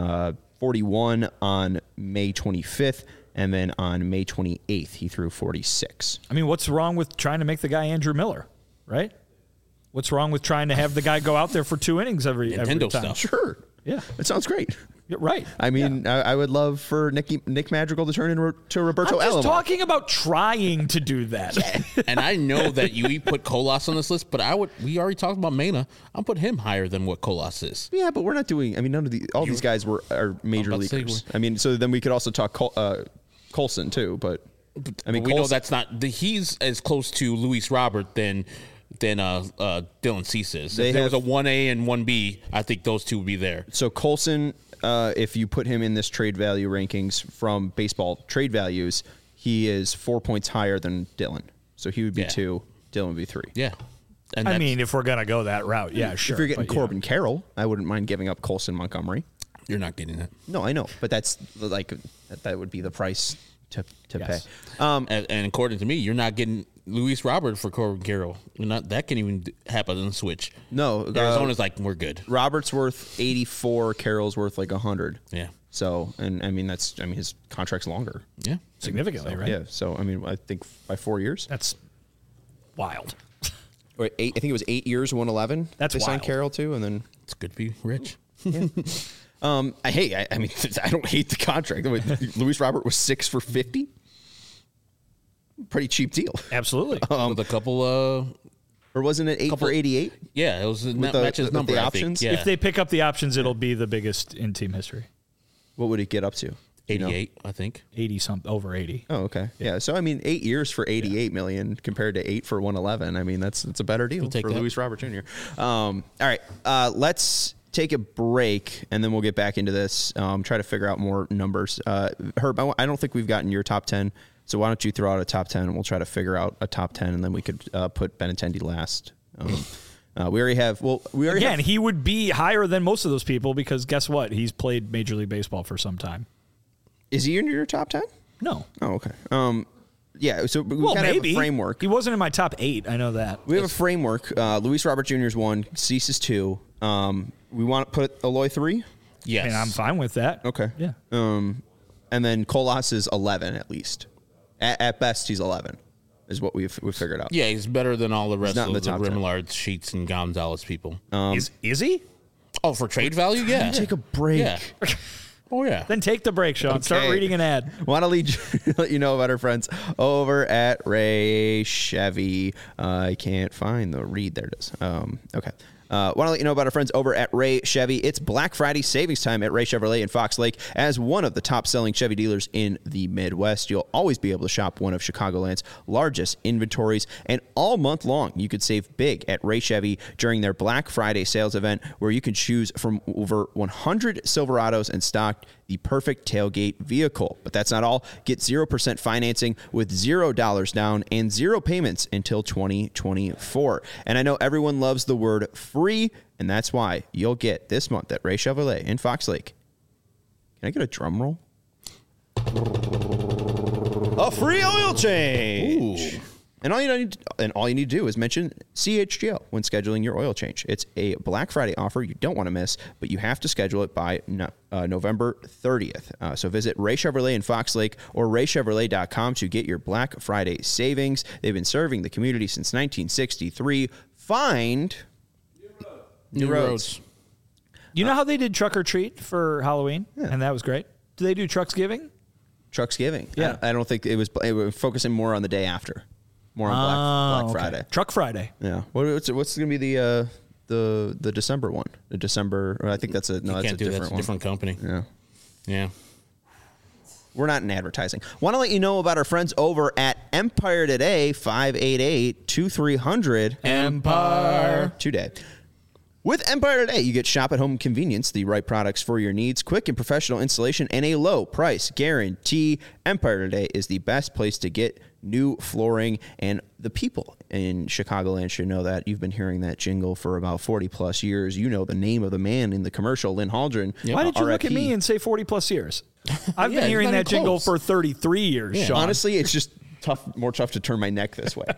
41 on May 25th, and then on May 28th he threw 46. I mean, what's wrong with trying to make the guy Andrew Miller, right? What's wrong with trying to have the guy go out there for 2 innings every time? Stuff. Sure. Yeah. That sounds great. You're right. I mean, I would love for Nick Madrigal to turn into Roberto I'm just Alomar. talking about trying to do that. And I know that you put Colas on this list, but we already talked about Mena. I'll put him higher than what Colas is. Yeah, but we're not doing. I mean, none of these guys are major leaguers. I mean, so then we could also talk Colson too. But I mean, we know that's not. He's as close to Luis Robert than Dylan Cease is. If there was a 1A and 1B, I think those two would be there. So Colson, if you put him in this trade value rankings from baseball trade values, he is 4 points higher than Dylan. So he would be 2, Dylan would be 3. Yeah. And I mean, if we're going to go that route, yeah, sure. If you're getting Corbin Carroll, I wouldn't mind giving up Colson Montgomery. You're not getting that. No, I know, but that's like that would be the price to Yes. pay. And according to me, you're not getting Luis Robert for Corbin Carroll. That can even happen on the switch. No, Arizona's like, we're good. Robert's worth 84. Carroll's worth like 100. Yeah. So, and I mean his contract's longer. Yeah. Significantly, right? Yeah. So I mean, I think by 4 years. That's wild. Or eight, I think it was 8 years, 111. That's they signed wild. Carroll too, and then It's good to be rich. I mean, I don't hate the contract. Luis Robert was 6 for 50. Pretty cheap deal. Absolutely. With a couple, Or wasn't it 8 for 88? yeah, it was the- matches with number. the I think. options? Yeah. If they pick up the options, it'll be the biggest in team history. What would it get up to? 88, I think. 80 something, over 80. Oh, okay. Yeah. So I mean, 8 years for 88 million compared to 8 for 111. I mean, that's a better deal take for that. Luis Robert Jr. All right. Let's take a break and then we'll get back into this. Try to figure out more numbers. Herb, I don't think we've gotten your top 10. So why don't you throw out a top 10 and we'll try to figure out a top 10 and then we could put Benintendi last. We already have. Well, we already Again, have, he would be higher than most of those people because guess what? He's played Major League Baseball for some time. Is he in your top 10? No. Oh, okay. Yeah. So we Well, kind of have maybe. a framework. He wasn't in my top 8. I know that. We have a framework. Luis Robert Jr. is 1. Cease is 2. We want to put Eloy 3. Yes. And I'm fine with that. Okay. Yeah. And then Colas is 11 at least. At best, he's 11, is what we've figured out. Yeah, he's better than all the rest not in of the the top 10. Remillard, Sheets, and Gonzalez people. Is he? Oh, for trade value? Yeah. Take a break. Yeah. Oh, yeah. Then take the break, Sean. Start Okay. reading an ad. Want to let you know about our friends over at Ray Chevy. I can't find the read. There it is. Okay. Want to let you know about our friends over at Ray Chevy. It's Black Friday savings time at Ray Chevrolet in Fox Lake. As one of the top-selling Chevy dealers in the Midwest, you'll always be able to shop one of Chicagoland's largest inventories. And all month long, you could save big at Ray Chevy during their Black Friday sales event, where you can choose from over 100 Silverados in stock, the perfect tailgate vehicle. But that's not all. Get 0% financing with $0 down and 0 payments until 2024. And I know everyone loves the word free, and that's why you'll get this month at Ray Chevrolet in Fox Lake. Can I get a drum roll? A free oil change. Ooh. And all you need to do is mention CHGO when scheduling your oil change. It's a Black Friday offer you don't want to miss, but you have to schedule it by November 30th. So visit Ray Chevrolet in Fox Lake or raychevrolet.com to get your Black Friday savings. They've been serving the community since 1963. Find new roads. You know how they did Truck or Treat for Halloween? And that was great. Do they do Trucksgiving? Trucksgiving. Yeah. I don't think it was focusing more on the day after. More on Black Friday. Truck Friday. Yeah. What's going to be the December one? The December. Or I think that's a Can't do that. different It's a one. different company. Yeah. Yeah. We're not in advertising. Want to let you know about our friends over at Empire Today, 588-2300. Empire. Today. With Empire Today, you get shop-at-home convenience, the right products for your needs, quick and professional installation, and a low price guarantee. Empire Today is the best place to get new flooring, and the people in Chicagoland should know that. You've been hearing that jingle for about 40-plus years. You know the name of the man in the commercial, Lynn Haldren. Why did you look at RIP. me and say 40-plus years? I've Yeah, been hearing not that even jingle close. for 33 years, Sean. Honestly, it's just more tough to turn my neck this way.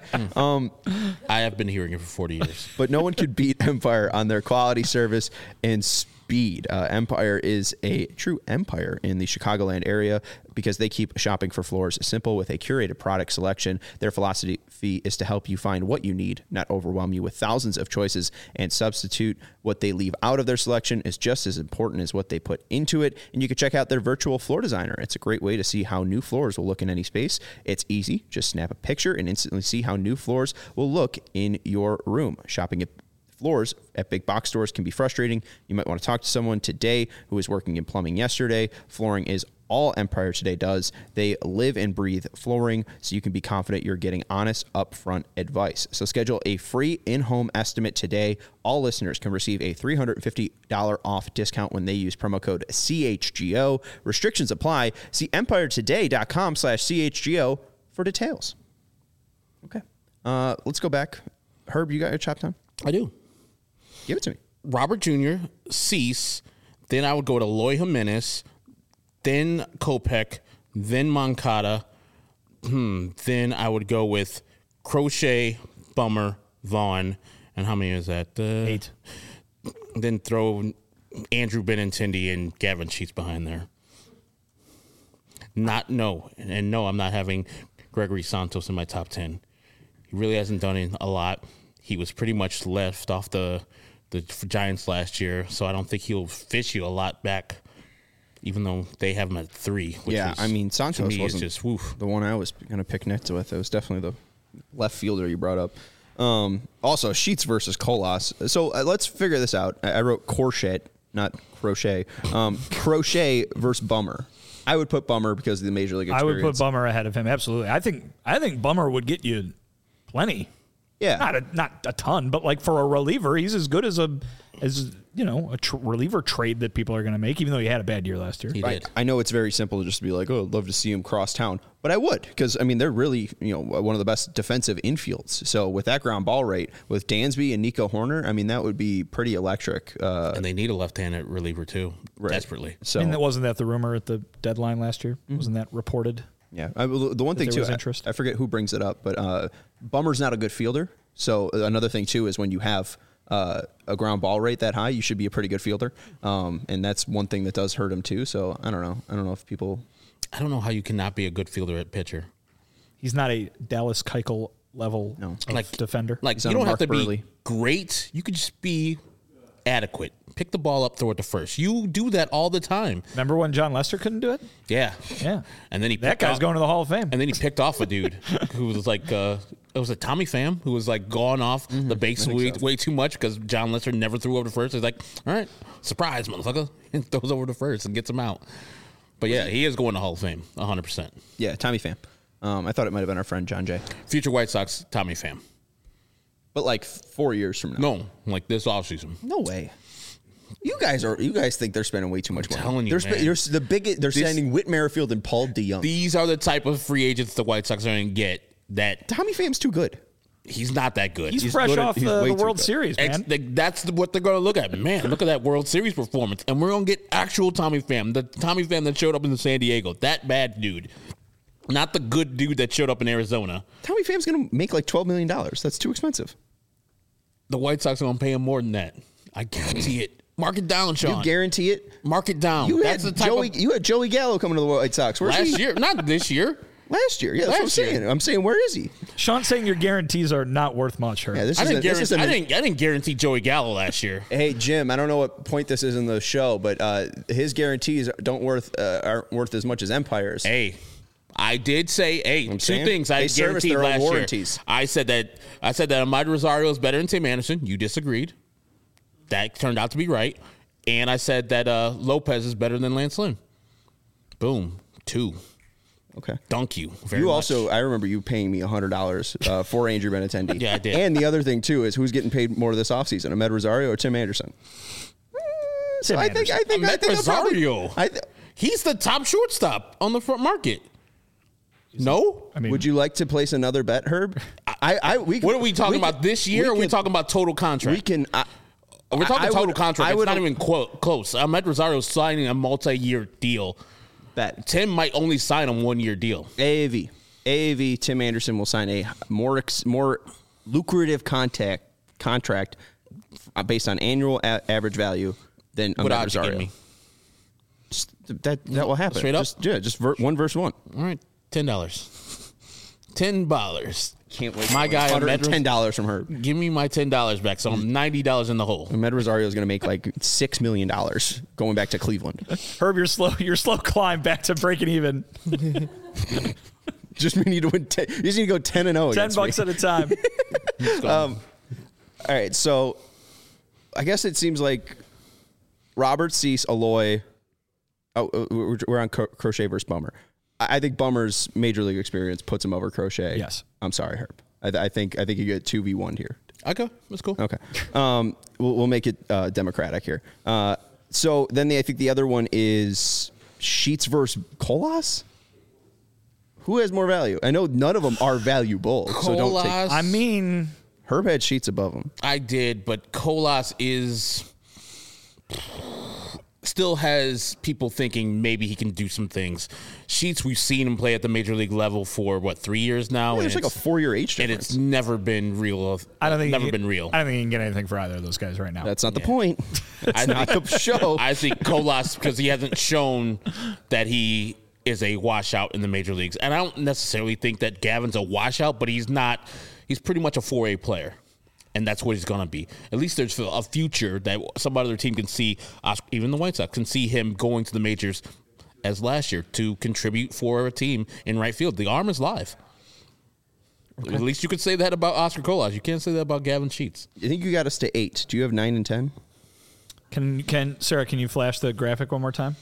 I have been hearing it for 40 years. But no one could beat Empire on their quality, service, and speed. Empire is a true empire in the Chicagoland area because they keep shopping for floors simple with a curated product selection. Their philosophy is to help you find what you need, not overwhelm you with thousands of choices and substitute. What they leave out of their selection is just as important as what they put into it. And you can check out their virtual floor designer. It's a great way to see how new floors will look in any space. It's easy. Just snap a picture and instantly see how new floors will look in your room. Shopping at floors at big box stores can be frustrating. You might want to talk to someone today who was working in plumbing yesterday. Flooring is all Empire Today does. They live and breathe flooring, so you can be confident you're getting honest, upfront advice. So schedule a free in-home estimate today. All listeners can receive a $350 off discount when they use promo code CHGO. Restrictions apply. See empiretoday.com/CHGO for details. Okay. Let's go back. Herb, you got your top 10? I do. Give it to me. Robert Jr., Cease, then I would go to Loy Jimenez, then Kopech, then Moncada. Then I would go with Crochet, Bummer, Vaughn, and how many is that? 8. Then throw Andrew Benintendi and Gavin Sheets behind there. No, I'm not having Gregory Santos in my top 10. He really hasn't done a lot. He was pretty much left off the Giants last year, so I don't think he'll fish you a lot back, even though they have him at 3. Which Yeah, I mean, Santos wasn't just woof. the one I was going to pick Nets with. It was definitely the left fielder you brought up. Also, Sheets versus Colas. So let's figure this out. I wrote Crochet, not Crochet. Crochet versus Bummer. I would put Bummer because of the Major League experience. I would put Bummer ahead of him. Absolutely. I think Bummer would get you plenty. Yeah. Not a ton, but like for a reliever, he's as good as a reliever trade that people are going to make, even though he had a bad year last year. He Right. did. I know it's very simple to just be like, oh, I'd love to see him cross town. But I would, because, I mean, they're really, one of the best defensive infields. So with that ground ball rate, with Dansby and Nico Horner, I mean, that would be pretty electric. And they need a left-handed reliever, too, desperately. So, I mean, wasn't that the rumor at the deadline last year? Wasn't that reported? yeah. The one thing, there too, was interest? I forget who brings it up, but Bummer's not a good fielder. So another thing, too, is when you have a ground ball rate that high, you should be a pretty good fielder. And that's one thing that does hurt him, too. So I don't know. I don't know if people... I don't know how you cannot be a good fielder at pitcher. He's not a Dallas Keuchel level defender. Like, He's you not don't a have to Mark be Burley. great. You could just be adequate. Pick the ball up, throw it to first. You do that all the time. Remember when John Lester couldn't do it? Yeah. Yeah. And then That guy's going to the Hall of Fame. And then he picked off a dude who was like, it was a Tommy Pham who was like gone off the base way too much because John Lester never threw over to first. He's like, all right, surprise, motherfucker. And throws over to first and gets him out. But yeah, he is going to Hall of Fame, 100%. Yeah, Tommy Pham. I thought it might have been our friend John Jay. Future White Sox, Tommy Pham. But like 4 years from now. No, like this offseason. No way. You guys think they're spending way too much money. telling you, they're man. They're signing Whit Merrifield and Paul DeYoung. These are the type of free agents the White Sox are going to get that Tommy Pham's too good. he's not that good. He's fresh good at- off he's the way too World good. Series, man. That's what they're going to look at. Man, look at that World Series performance. And we're going to get actual Tommy Pham, the Tommy Pham that showed up in San Diego. That bad dude. Not the good dude that showed up in Arizona. Tommy Pham's going to make like $12 million. That's too expensive. The White Sox are going to pay him more than that. I guarantee it. Mark it down, Sean. You guarantee it? Mark it down. You That's had the type Joey Gallo coming to the White Sox. Where's last he? year. Not this year. Last year. Yeah, that's what I'm Last year. saying. I'm saying, where is he? Sean's saying your guarantees are not worth much. Herb. Yeah, I didn't guarantee Joey Gallo last year. Hey Jim, I don't know what point this is in the show, but his guarantees aren't worth as much as Empire's. Hey, I did say, two saying, things I they service guaranteed their own last year. warranties. I said that Ahmad Rosario is better than Tim Anderson. You disagreed. That turned out to be right. And I said that Lopez is better than Lance Lynn. Boom. 2. Okay. Dunk you very You much. also, I remember you paying me $100 for Andrew Benintendi. Yeah, I did. And the other thing too is who's getting paid more this offseason, Ahmed Rosario or Tim Anderson? So I think Ahmed I'll probably- Rosario. He's the top shortstop on the front market. No? I mean, Would you like to place another bet, Herb? What are we talking about this year, or are we talking about total contract? We can. We're talking I total would- contract. I It's would- not even close. Ahmed Rosario's signing a multi-year deal. bet Tim might only sign a 1-year deal. AAV. Tim Anderson will sign a more lucrative contract based on annual average value than What Ahmed odds you Rosario. give me? That will happen. Straight up? Just 1 versus 1. All right, $10. $10. Can't wait. My guy, Ahmed $110 from Herb. Give me my $10 back, so I'm $90 in the hole. Ahmed Rosario is going to make like $6 million going back to Cleveland. Herb, your slow climb back to breaking even. Just we need to win. You just need to go 10-0. $10 at a time. All right, so I guess it seems like Robert Cease, Aloy. Oh, we're on Crochet versus Bummer. I think Bummer's major league experience puts him over Crochet. Yes. I'm sorry, Herb. I think you get 2v1 here. Okay, that's cool. Okay. We'll make it democratic here. So then I think the other one is Sheets versus Colas. Who has more value? I know none of them are valuable. So don't take. Colas, I mean, Herb had Sheets above him. I did, but Colas is. still has people thinking maybe he can do some things. Sheets, we've seen him play at the major league level for 3 years now. There's like a 4-year age and difference. it's never been real. I don't think been real. I don't think you can get anything for either of those guys right now. That's not the point. That's not the show. I think Colas, because he hasn't shown that he is a washout in the major leagues. And I don't necessarily think that Gavin's a washout, but he's not. He's pretty much a 4A player. And that's what he's going to be. At least there's a future that some other team can see, even the White Sox, can see him going to the majors as last year to contribute for a team in right field. The arm is live. Okay. At least you could say that about Oscar Colas. You can't say that about Gavin Sheets. I think you got us to 8. Do you have 9 and 10? Sarah, can you flash the graphic one more time?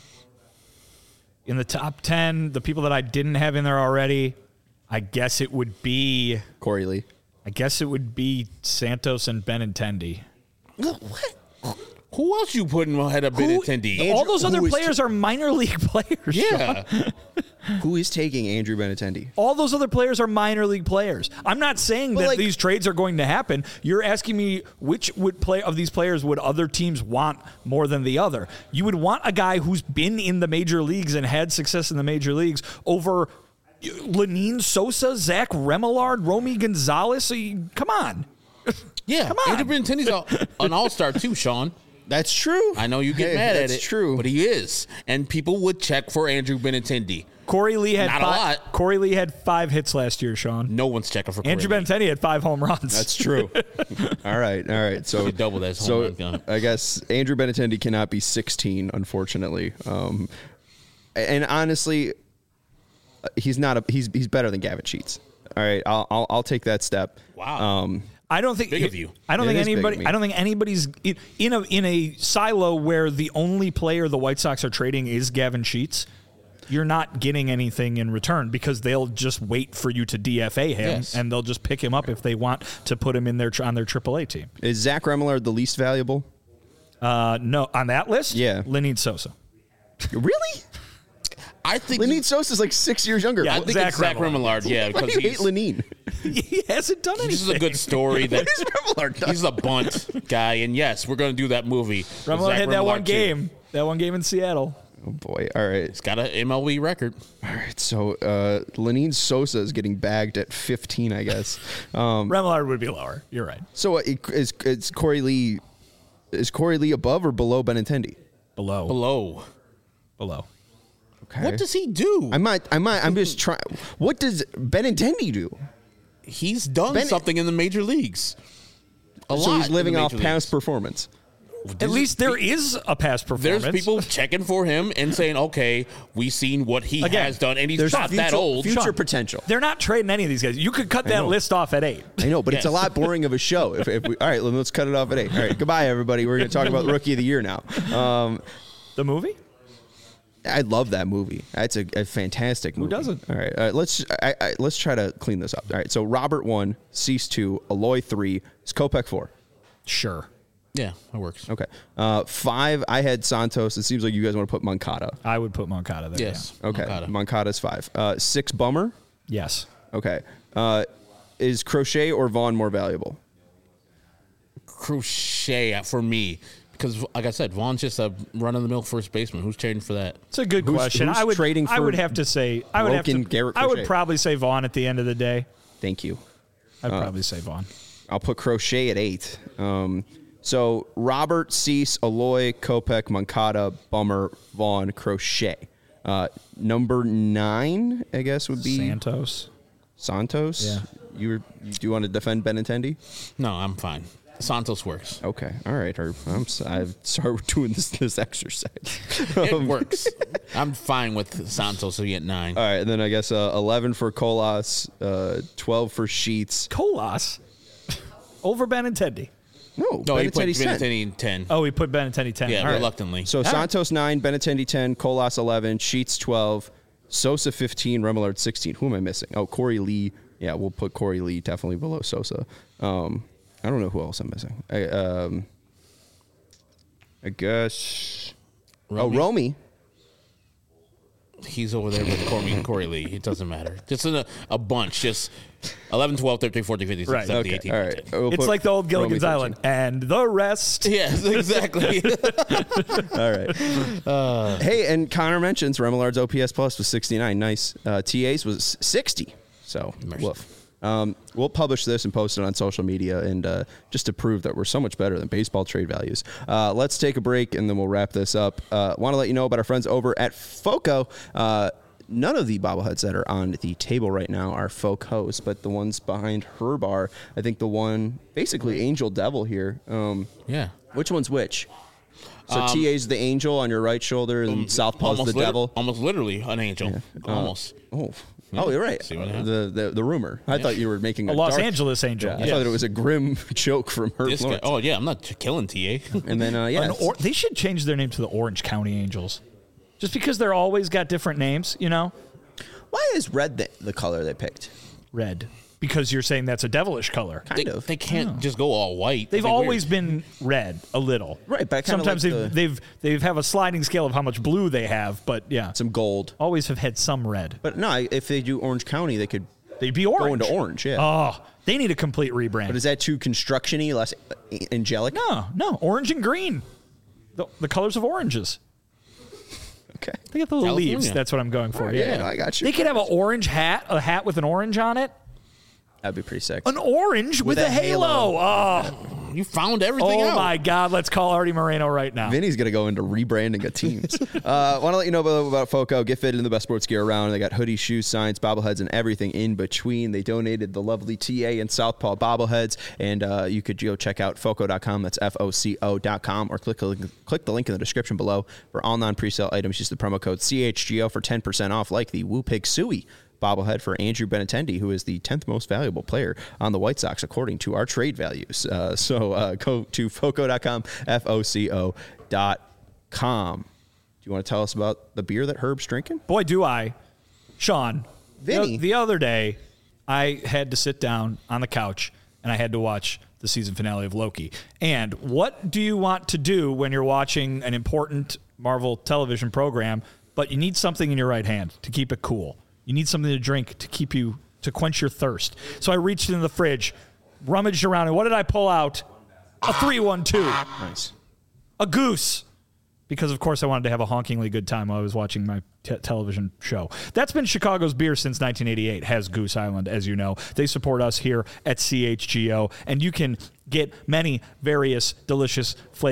In the top 10, the people that I didn't have in there already, I guess it would be Corey Lee. I guess it would be Santos and Benintendi. What? Who else you putting ahead of Benintendi? All those other players are minor league players. Yeah. Who is taking Andrew Benintendi? All those other players are minor league players. I'm not saying that these trades are going to happen. You're asking me which of these players would other teams want more than the other. You would want a guy who's been in the major leagues and had success in the major leagues over Lenyn Sosa, Zach Remillard, Romy Gonzalez. Come on. Yeah. Come on. Andrew Benintendi's an all-star too, Sean. That's true. I know you get mad at it. That's true. But he is. And people would check for Andrew Benintendi. Corey Lee had Not a lot. Corey Lee had 5 hits last year, Sean. No one's checking for Andrew Corey Lee. Benintendi had 5 home runs. That's true. All right. So You double that home run gun. I guess Andrew Benintendi cannot be 16, unfortunately. And honestly, he's better than Gavin Sheets. All right, I'll take that step. Wow. I don't think big of you. I don't It think is big of anybody. me. I don't think anybody's in a silo where the only player the White Sox are trading is Gavin Sheets. You're not getting anything in return because they'll just wait for you to DFA him, Yes. and they'll just pick him up if they want to put him in on their AAA team. Is Zach Remillard the least valuable? No, on that list, Yeah. Lenyn Sosa. Really? I think Lenyn Sosa's like 6 years younger. Yeah, I think Zach it's Zach Remillard. Remillard. Yeah, Why because do you hate he's, Lenyn? He hasn't done anything. this is a good story that What is Remillard done? he's a bunt guy. And yes, we're going to do that movie. with Remillard Zach had that Remillard one too. game. That one game in Seattle. Oh boy! All right, He's got an MLB record. all right. So Lenyn Sosa is getting bagged at 15, I guess. Remillard would be lower. You're right. So is Corey Lee? Is Corey Lee above or below Benintendi? Below. Below. Okay. What does he do? I'm just trying. What does Benintendi do? He's done Ben- something in the major leagues. So he's living off past performance. At least there is a past performance. There's people checking for him and saying, okay, we've seen what he Again, has done, and he's There's not that old. future Sean, potential. They're not trading any of these guys. You could cut that know. list off at 8. I know, but it's a lot boring of a show. If we, all right, let's cut it off at 8. All right, goodbye, everybody. We're going to talk about Rookie of the Year now. The movie? I love that movie. It's a fantastic movie. Who doesn't? All right, let's try to clean this up. All right, so Robert 1, Cease 2, Aloy 3, Skopek 4. Sure. Yeah, that works. Okay. 5, I had Santos. It seems like you guys want to put Moncada. I would put Moncada there. Yes. Okay. Moncada. Moncada's 5. 6, Bummer. Yeah. Yes. Okay. Is Crochet or Vaughn more valuable? Crochet for me. Because, like I said, Vaughn's just a run-of-the-mill first baseman. Who's trading for that? It's a good Who's- question. who's I would trading I for would have to say I would have broken to Garrett I would Crochet? probably say Vaughn at the end of the day. Thank you. I'd probably say Vaughn. I'll put Crochet at 8. So Robert, Cease, Aloy, Kopech, Moncada, Bummer, Vaughn, Crochet. Number 9, I guess, would be Santos. Santos. Yeah. Do you want to defend Benintendi? No, I'm fine. Santos works. Okay. All right. Herb. I'm sorry we're doing this exercise. It works. I'm fine with Santos to be at 9. All right. And then I guess 11 for Colas, 12 for Sheets. Colas over Benintendi. No, he put Benintendi's 10. Benintendi in 10. Oh, we put Benintendi 10. Yeah, All right. reluctantly. So Santos 9, Benintendi 10, Colas 11, Sheets 12, Sosa 15, Remillard 16. Who am I missing? Oh, Corey Lee. Yeah, we'll put Corey Lee definitely below Sosa. I don't know who else I'm missing. I guess. Romy? Oh, Romy. He's over there with Corey Lee. It doesn't matter. Just in a bunch. Just 11, 12, 13, 14, 15, 16, Right. 17, Okay. 18, All 19. right. We'll It's put like the old Gilligan's Romy Island. And the rest. Yes, exactly. 13. All right. Hey, and Connor mentions Remolard's OPS plus was 69. Nice. TA's was 60. So, woof. We'll publish this and post it on social media, and just to prove that we're so much better than baseball trade values. Let's take a break, and then we'll wrap this up. Want to let you know about our friends over at FOCO. None of the bobbleheads that are on the table right now are FOCOs, but the ones behind her bar, I think the one, basically Angel Devil here. Yeah. Which one's which? So TA's the angel on your right shoulder, and Southpaw's the devil. Almost literally an angel. Yeah. Almost. Oh, you're right. See what happened? The rumor. I thought you were making A Los Angeles angel. Yeah, I thought it was a grim joke from her. This guy, oh, yeah, I'm not killing TA. And then, They should change their name to the Orange County Angels. Just because they're always got different names, you know? Why is red the color they picked? Red. Because you're saying that's a devilish color. Kind of. They can't just go all white. They've always been red a little. Right, but sometimes like they have a sliding scale of how much blue they have, but yeah. Some gold. Always have had some red. But no, if they do Orange County, they could They'd be orange. go into orange, yeah. Oh, they need a complete rebrand. But is that too construction-y, less angelic? No. Orange and green. The colors of oranges. Okay. They get the little California. leaves. That's what I'm going for. Yeah, I got you. They could have an orange hat, a hat with an orange on it. That'd be pretty sick. An orange with a halo. Oh, You found everything out. oh my God. Let's call Artie Moreno right now. Vinny's going to go into rebranding of teams. Want to let you know about FOCO. Get fitted in the best sports gear around. They got hoodies, shoes, signs, bobbleheads, and everything in between. They donated the lovely TA and Southpaw bobbleheads, and you could go check out FOCO.com. That's FOCO.com, or click the link in the description below for all non-presale items. Use the promo code CHGO for 10% off, like the Woo Pig Suey bobblehead for Andrew Benintendi, who is the 10th most valuable player on the White Sox, according to our trade values. So go to FOCO.com, FOCO.com. Do you want to tell us about the beer that Herb's drinking? Boy, do I. Sean, Vinny. the other day, I had to sit down on the couch, and I had to watch the season finale of Loki. And what do you want to do when you're watching an important Marvel television program, but you need something in your right hand to keep it cool? You need something to drink to quench your thirst. So I reached into the fridge, rummaged around, and what did I pull out? A 312. Nice. A goose. Because, of course, I wanted to have a honkingly good time while I was watching my television show. That's been Chicago's beer since 1988, has Goose Island, as you know. They support us here at CHGO, and you can get many various delicious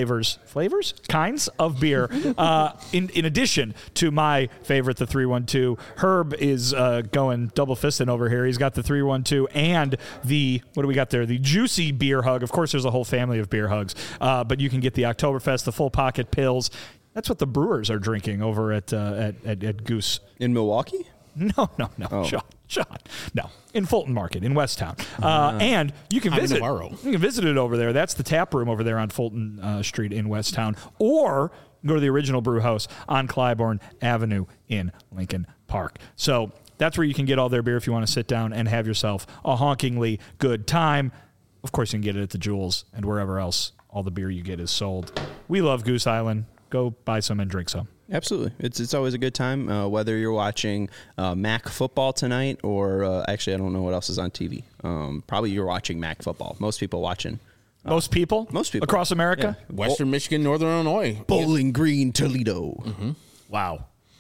kinds of beer. In addition to my favorite, the 312, Herb is going double-fisting over here. He's got the 312 and the, what do we got there? The Juicy Beer Hug. Of course, there's a whole family of beer hugs, but you can get the Oktoberfest, the Full Pocket Pills. That's what the Brewers are drinking over at Goose. In Milwaukee? No. Oh. Sean. No. In Fulton Market, in Westtown. And you can visit Navarro. You can visit it over there. That's the tap room over there on Fulton Street in Westtown. Or go to the original brew house on Clybourne Avenue in Lincoln Park. So that's where you can get all their beer if you want to sit down and have yourself a honkingly good time. Of course, you can get it at the Jewels and wherever else all the beer you get is sold. We love Goose Island. Go buy some and drink some. Absolutely. It's always a good time, whether you're watching MAC football tonight or actually, I don't know what else is on TV. Probably you're watching MAC football. Most people watching. Most people across America? Yeah. Western Michigan, Northern Illinois. Bowling Green, Toledo. Mm-hmm. Wow.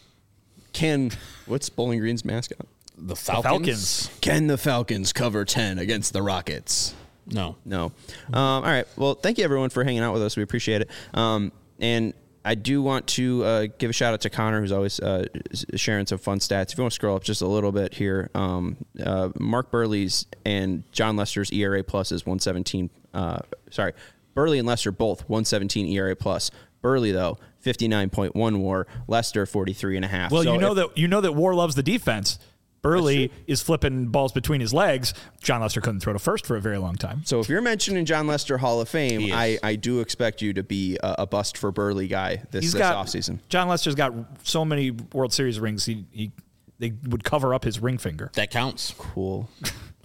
What's Bowling Green's mascot? The Falcons. Can the Falcons cover 10 against the Rockets? No. All right. Well, thank you, everyone, for hanging out with us. We appreciate it. And I do want to give a shout out to Connor, who's always sharing some fun stats. If you want to scroll up just a little bit here, Mark Burley's and John Lester's ERA plus is 117. Burley and Lester both 117 ERA plus. Burley, though, 59.1 WAR. Lester 43.5. Well, so you know that WAR loves the defense. Burley is flipping balls between his legs. John Lester couldn't throw to first for a very long time. So if you're mentioning John Lester Hall of Fame, I do expect you to be a bust for Burley guy this offseason. John Lester's got so many World Series rings, they would cover up his ring finger. That counts. Cool.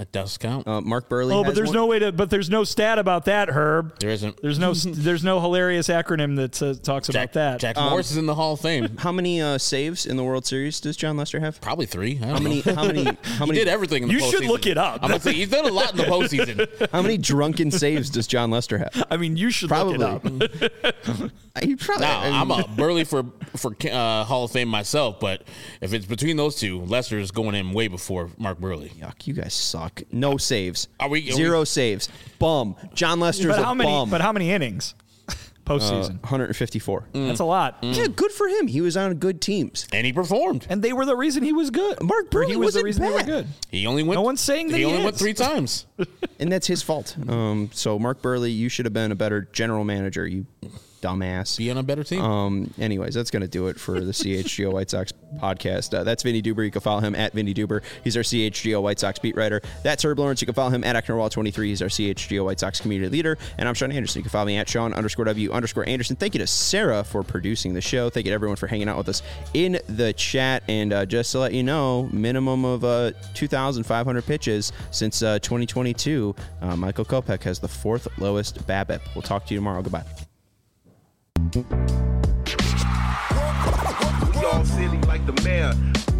It does count. Mark Burley. Oh, has but there's one. no way to. But there's no stat about that, Herb. There isn't. There's no hilarious acronym that talks about that. Jack Morris is in the Hall of Fame. How many saves in the World Series does John Lester have? Probably 3. How many? He did everything in the You postseason. should look it up. I'm going to say, he's done a lot in the postseason. How many drunken saves does John Lester have? I mean, you should Probably. look it up. He probably. Now, I mean, I'm a Burley for Hall of Fame myself, but if it's between those two, Lester is going in way before Mark Burley. Yuck, you guys suck. No saves. Are 0 saves. Bum. John Lester's But how a many? bum. But how many innings? Postseason. 154. That's a lot. Yeah, good for him. He was on good teams. And he performed. And they were the reason he was good. Mark Burley He was the wasn't reason they were bad. good. He only went. No one's saying that he he only went is. 3 times. And that's his fault. So, Mark Burley, you should have been a better general manager, you dumbass. Be on a better team. Anyways, that's going to do it for the CHGO White Sox podcast. That's Vinny Duber. You can follow him at Vinny Duber. He's our CHGO White Sox beat writer. That's Herb Lawrence. You can follow him at Ecknerwall23. He's our CHGO White Sox community leader. And I'm Sean Anderson. You can follow me at Sean_W_Anderson. Thank you to Sarah for producing the show. Thank you to everyone for hanging out with us in the chat. And just to let you know, minimum of 2,500 pitches since 2022. Michael Kopech has the 4th lowest BABIP. We'll talk to you tomorrow. Goodbye. We all silly like the mayor.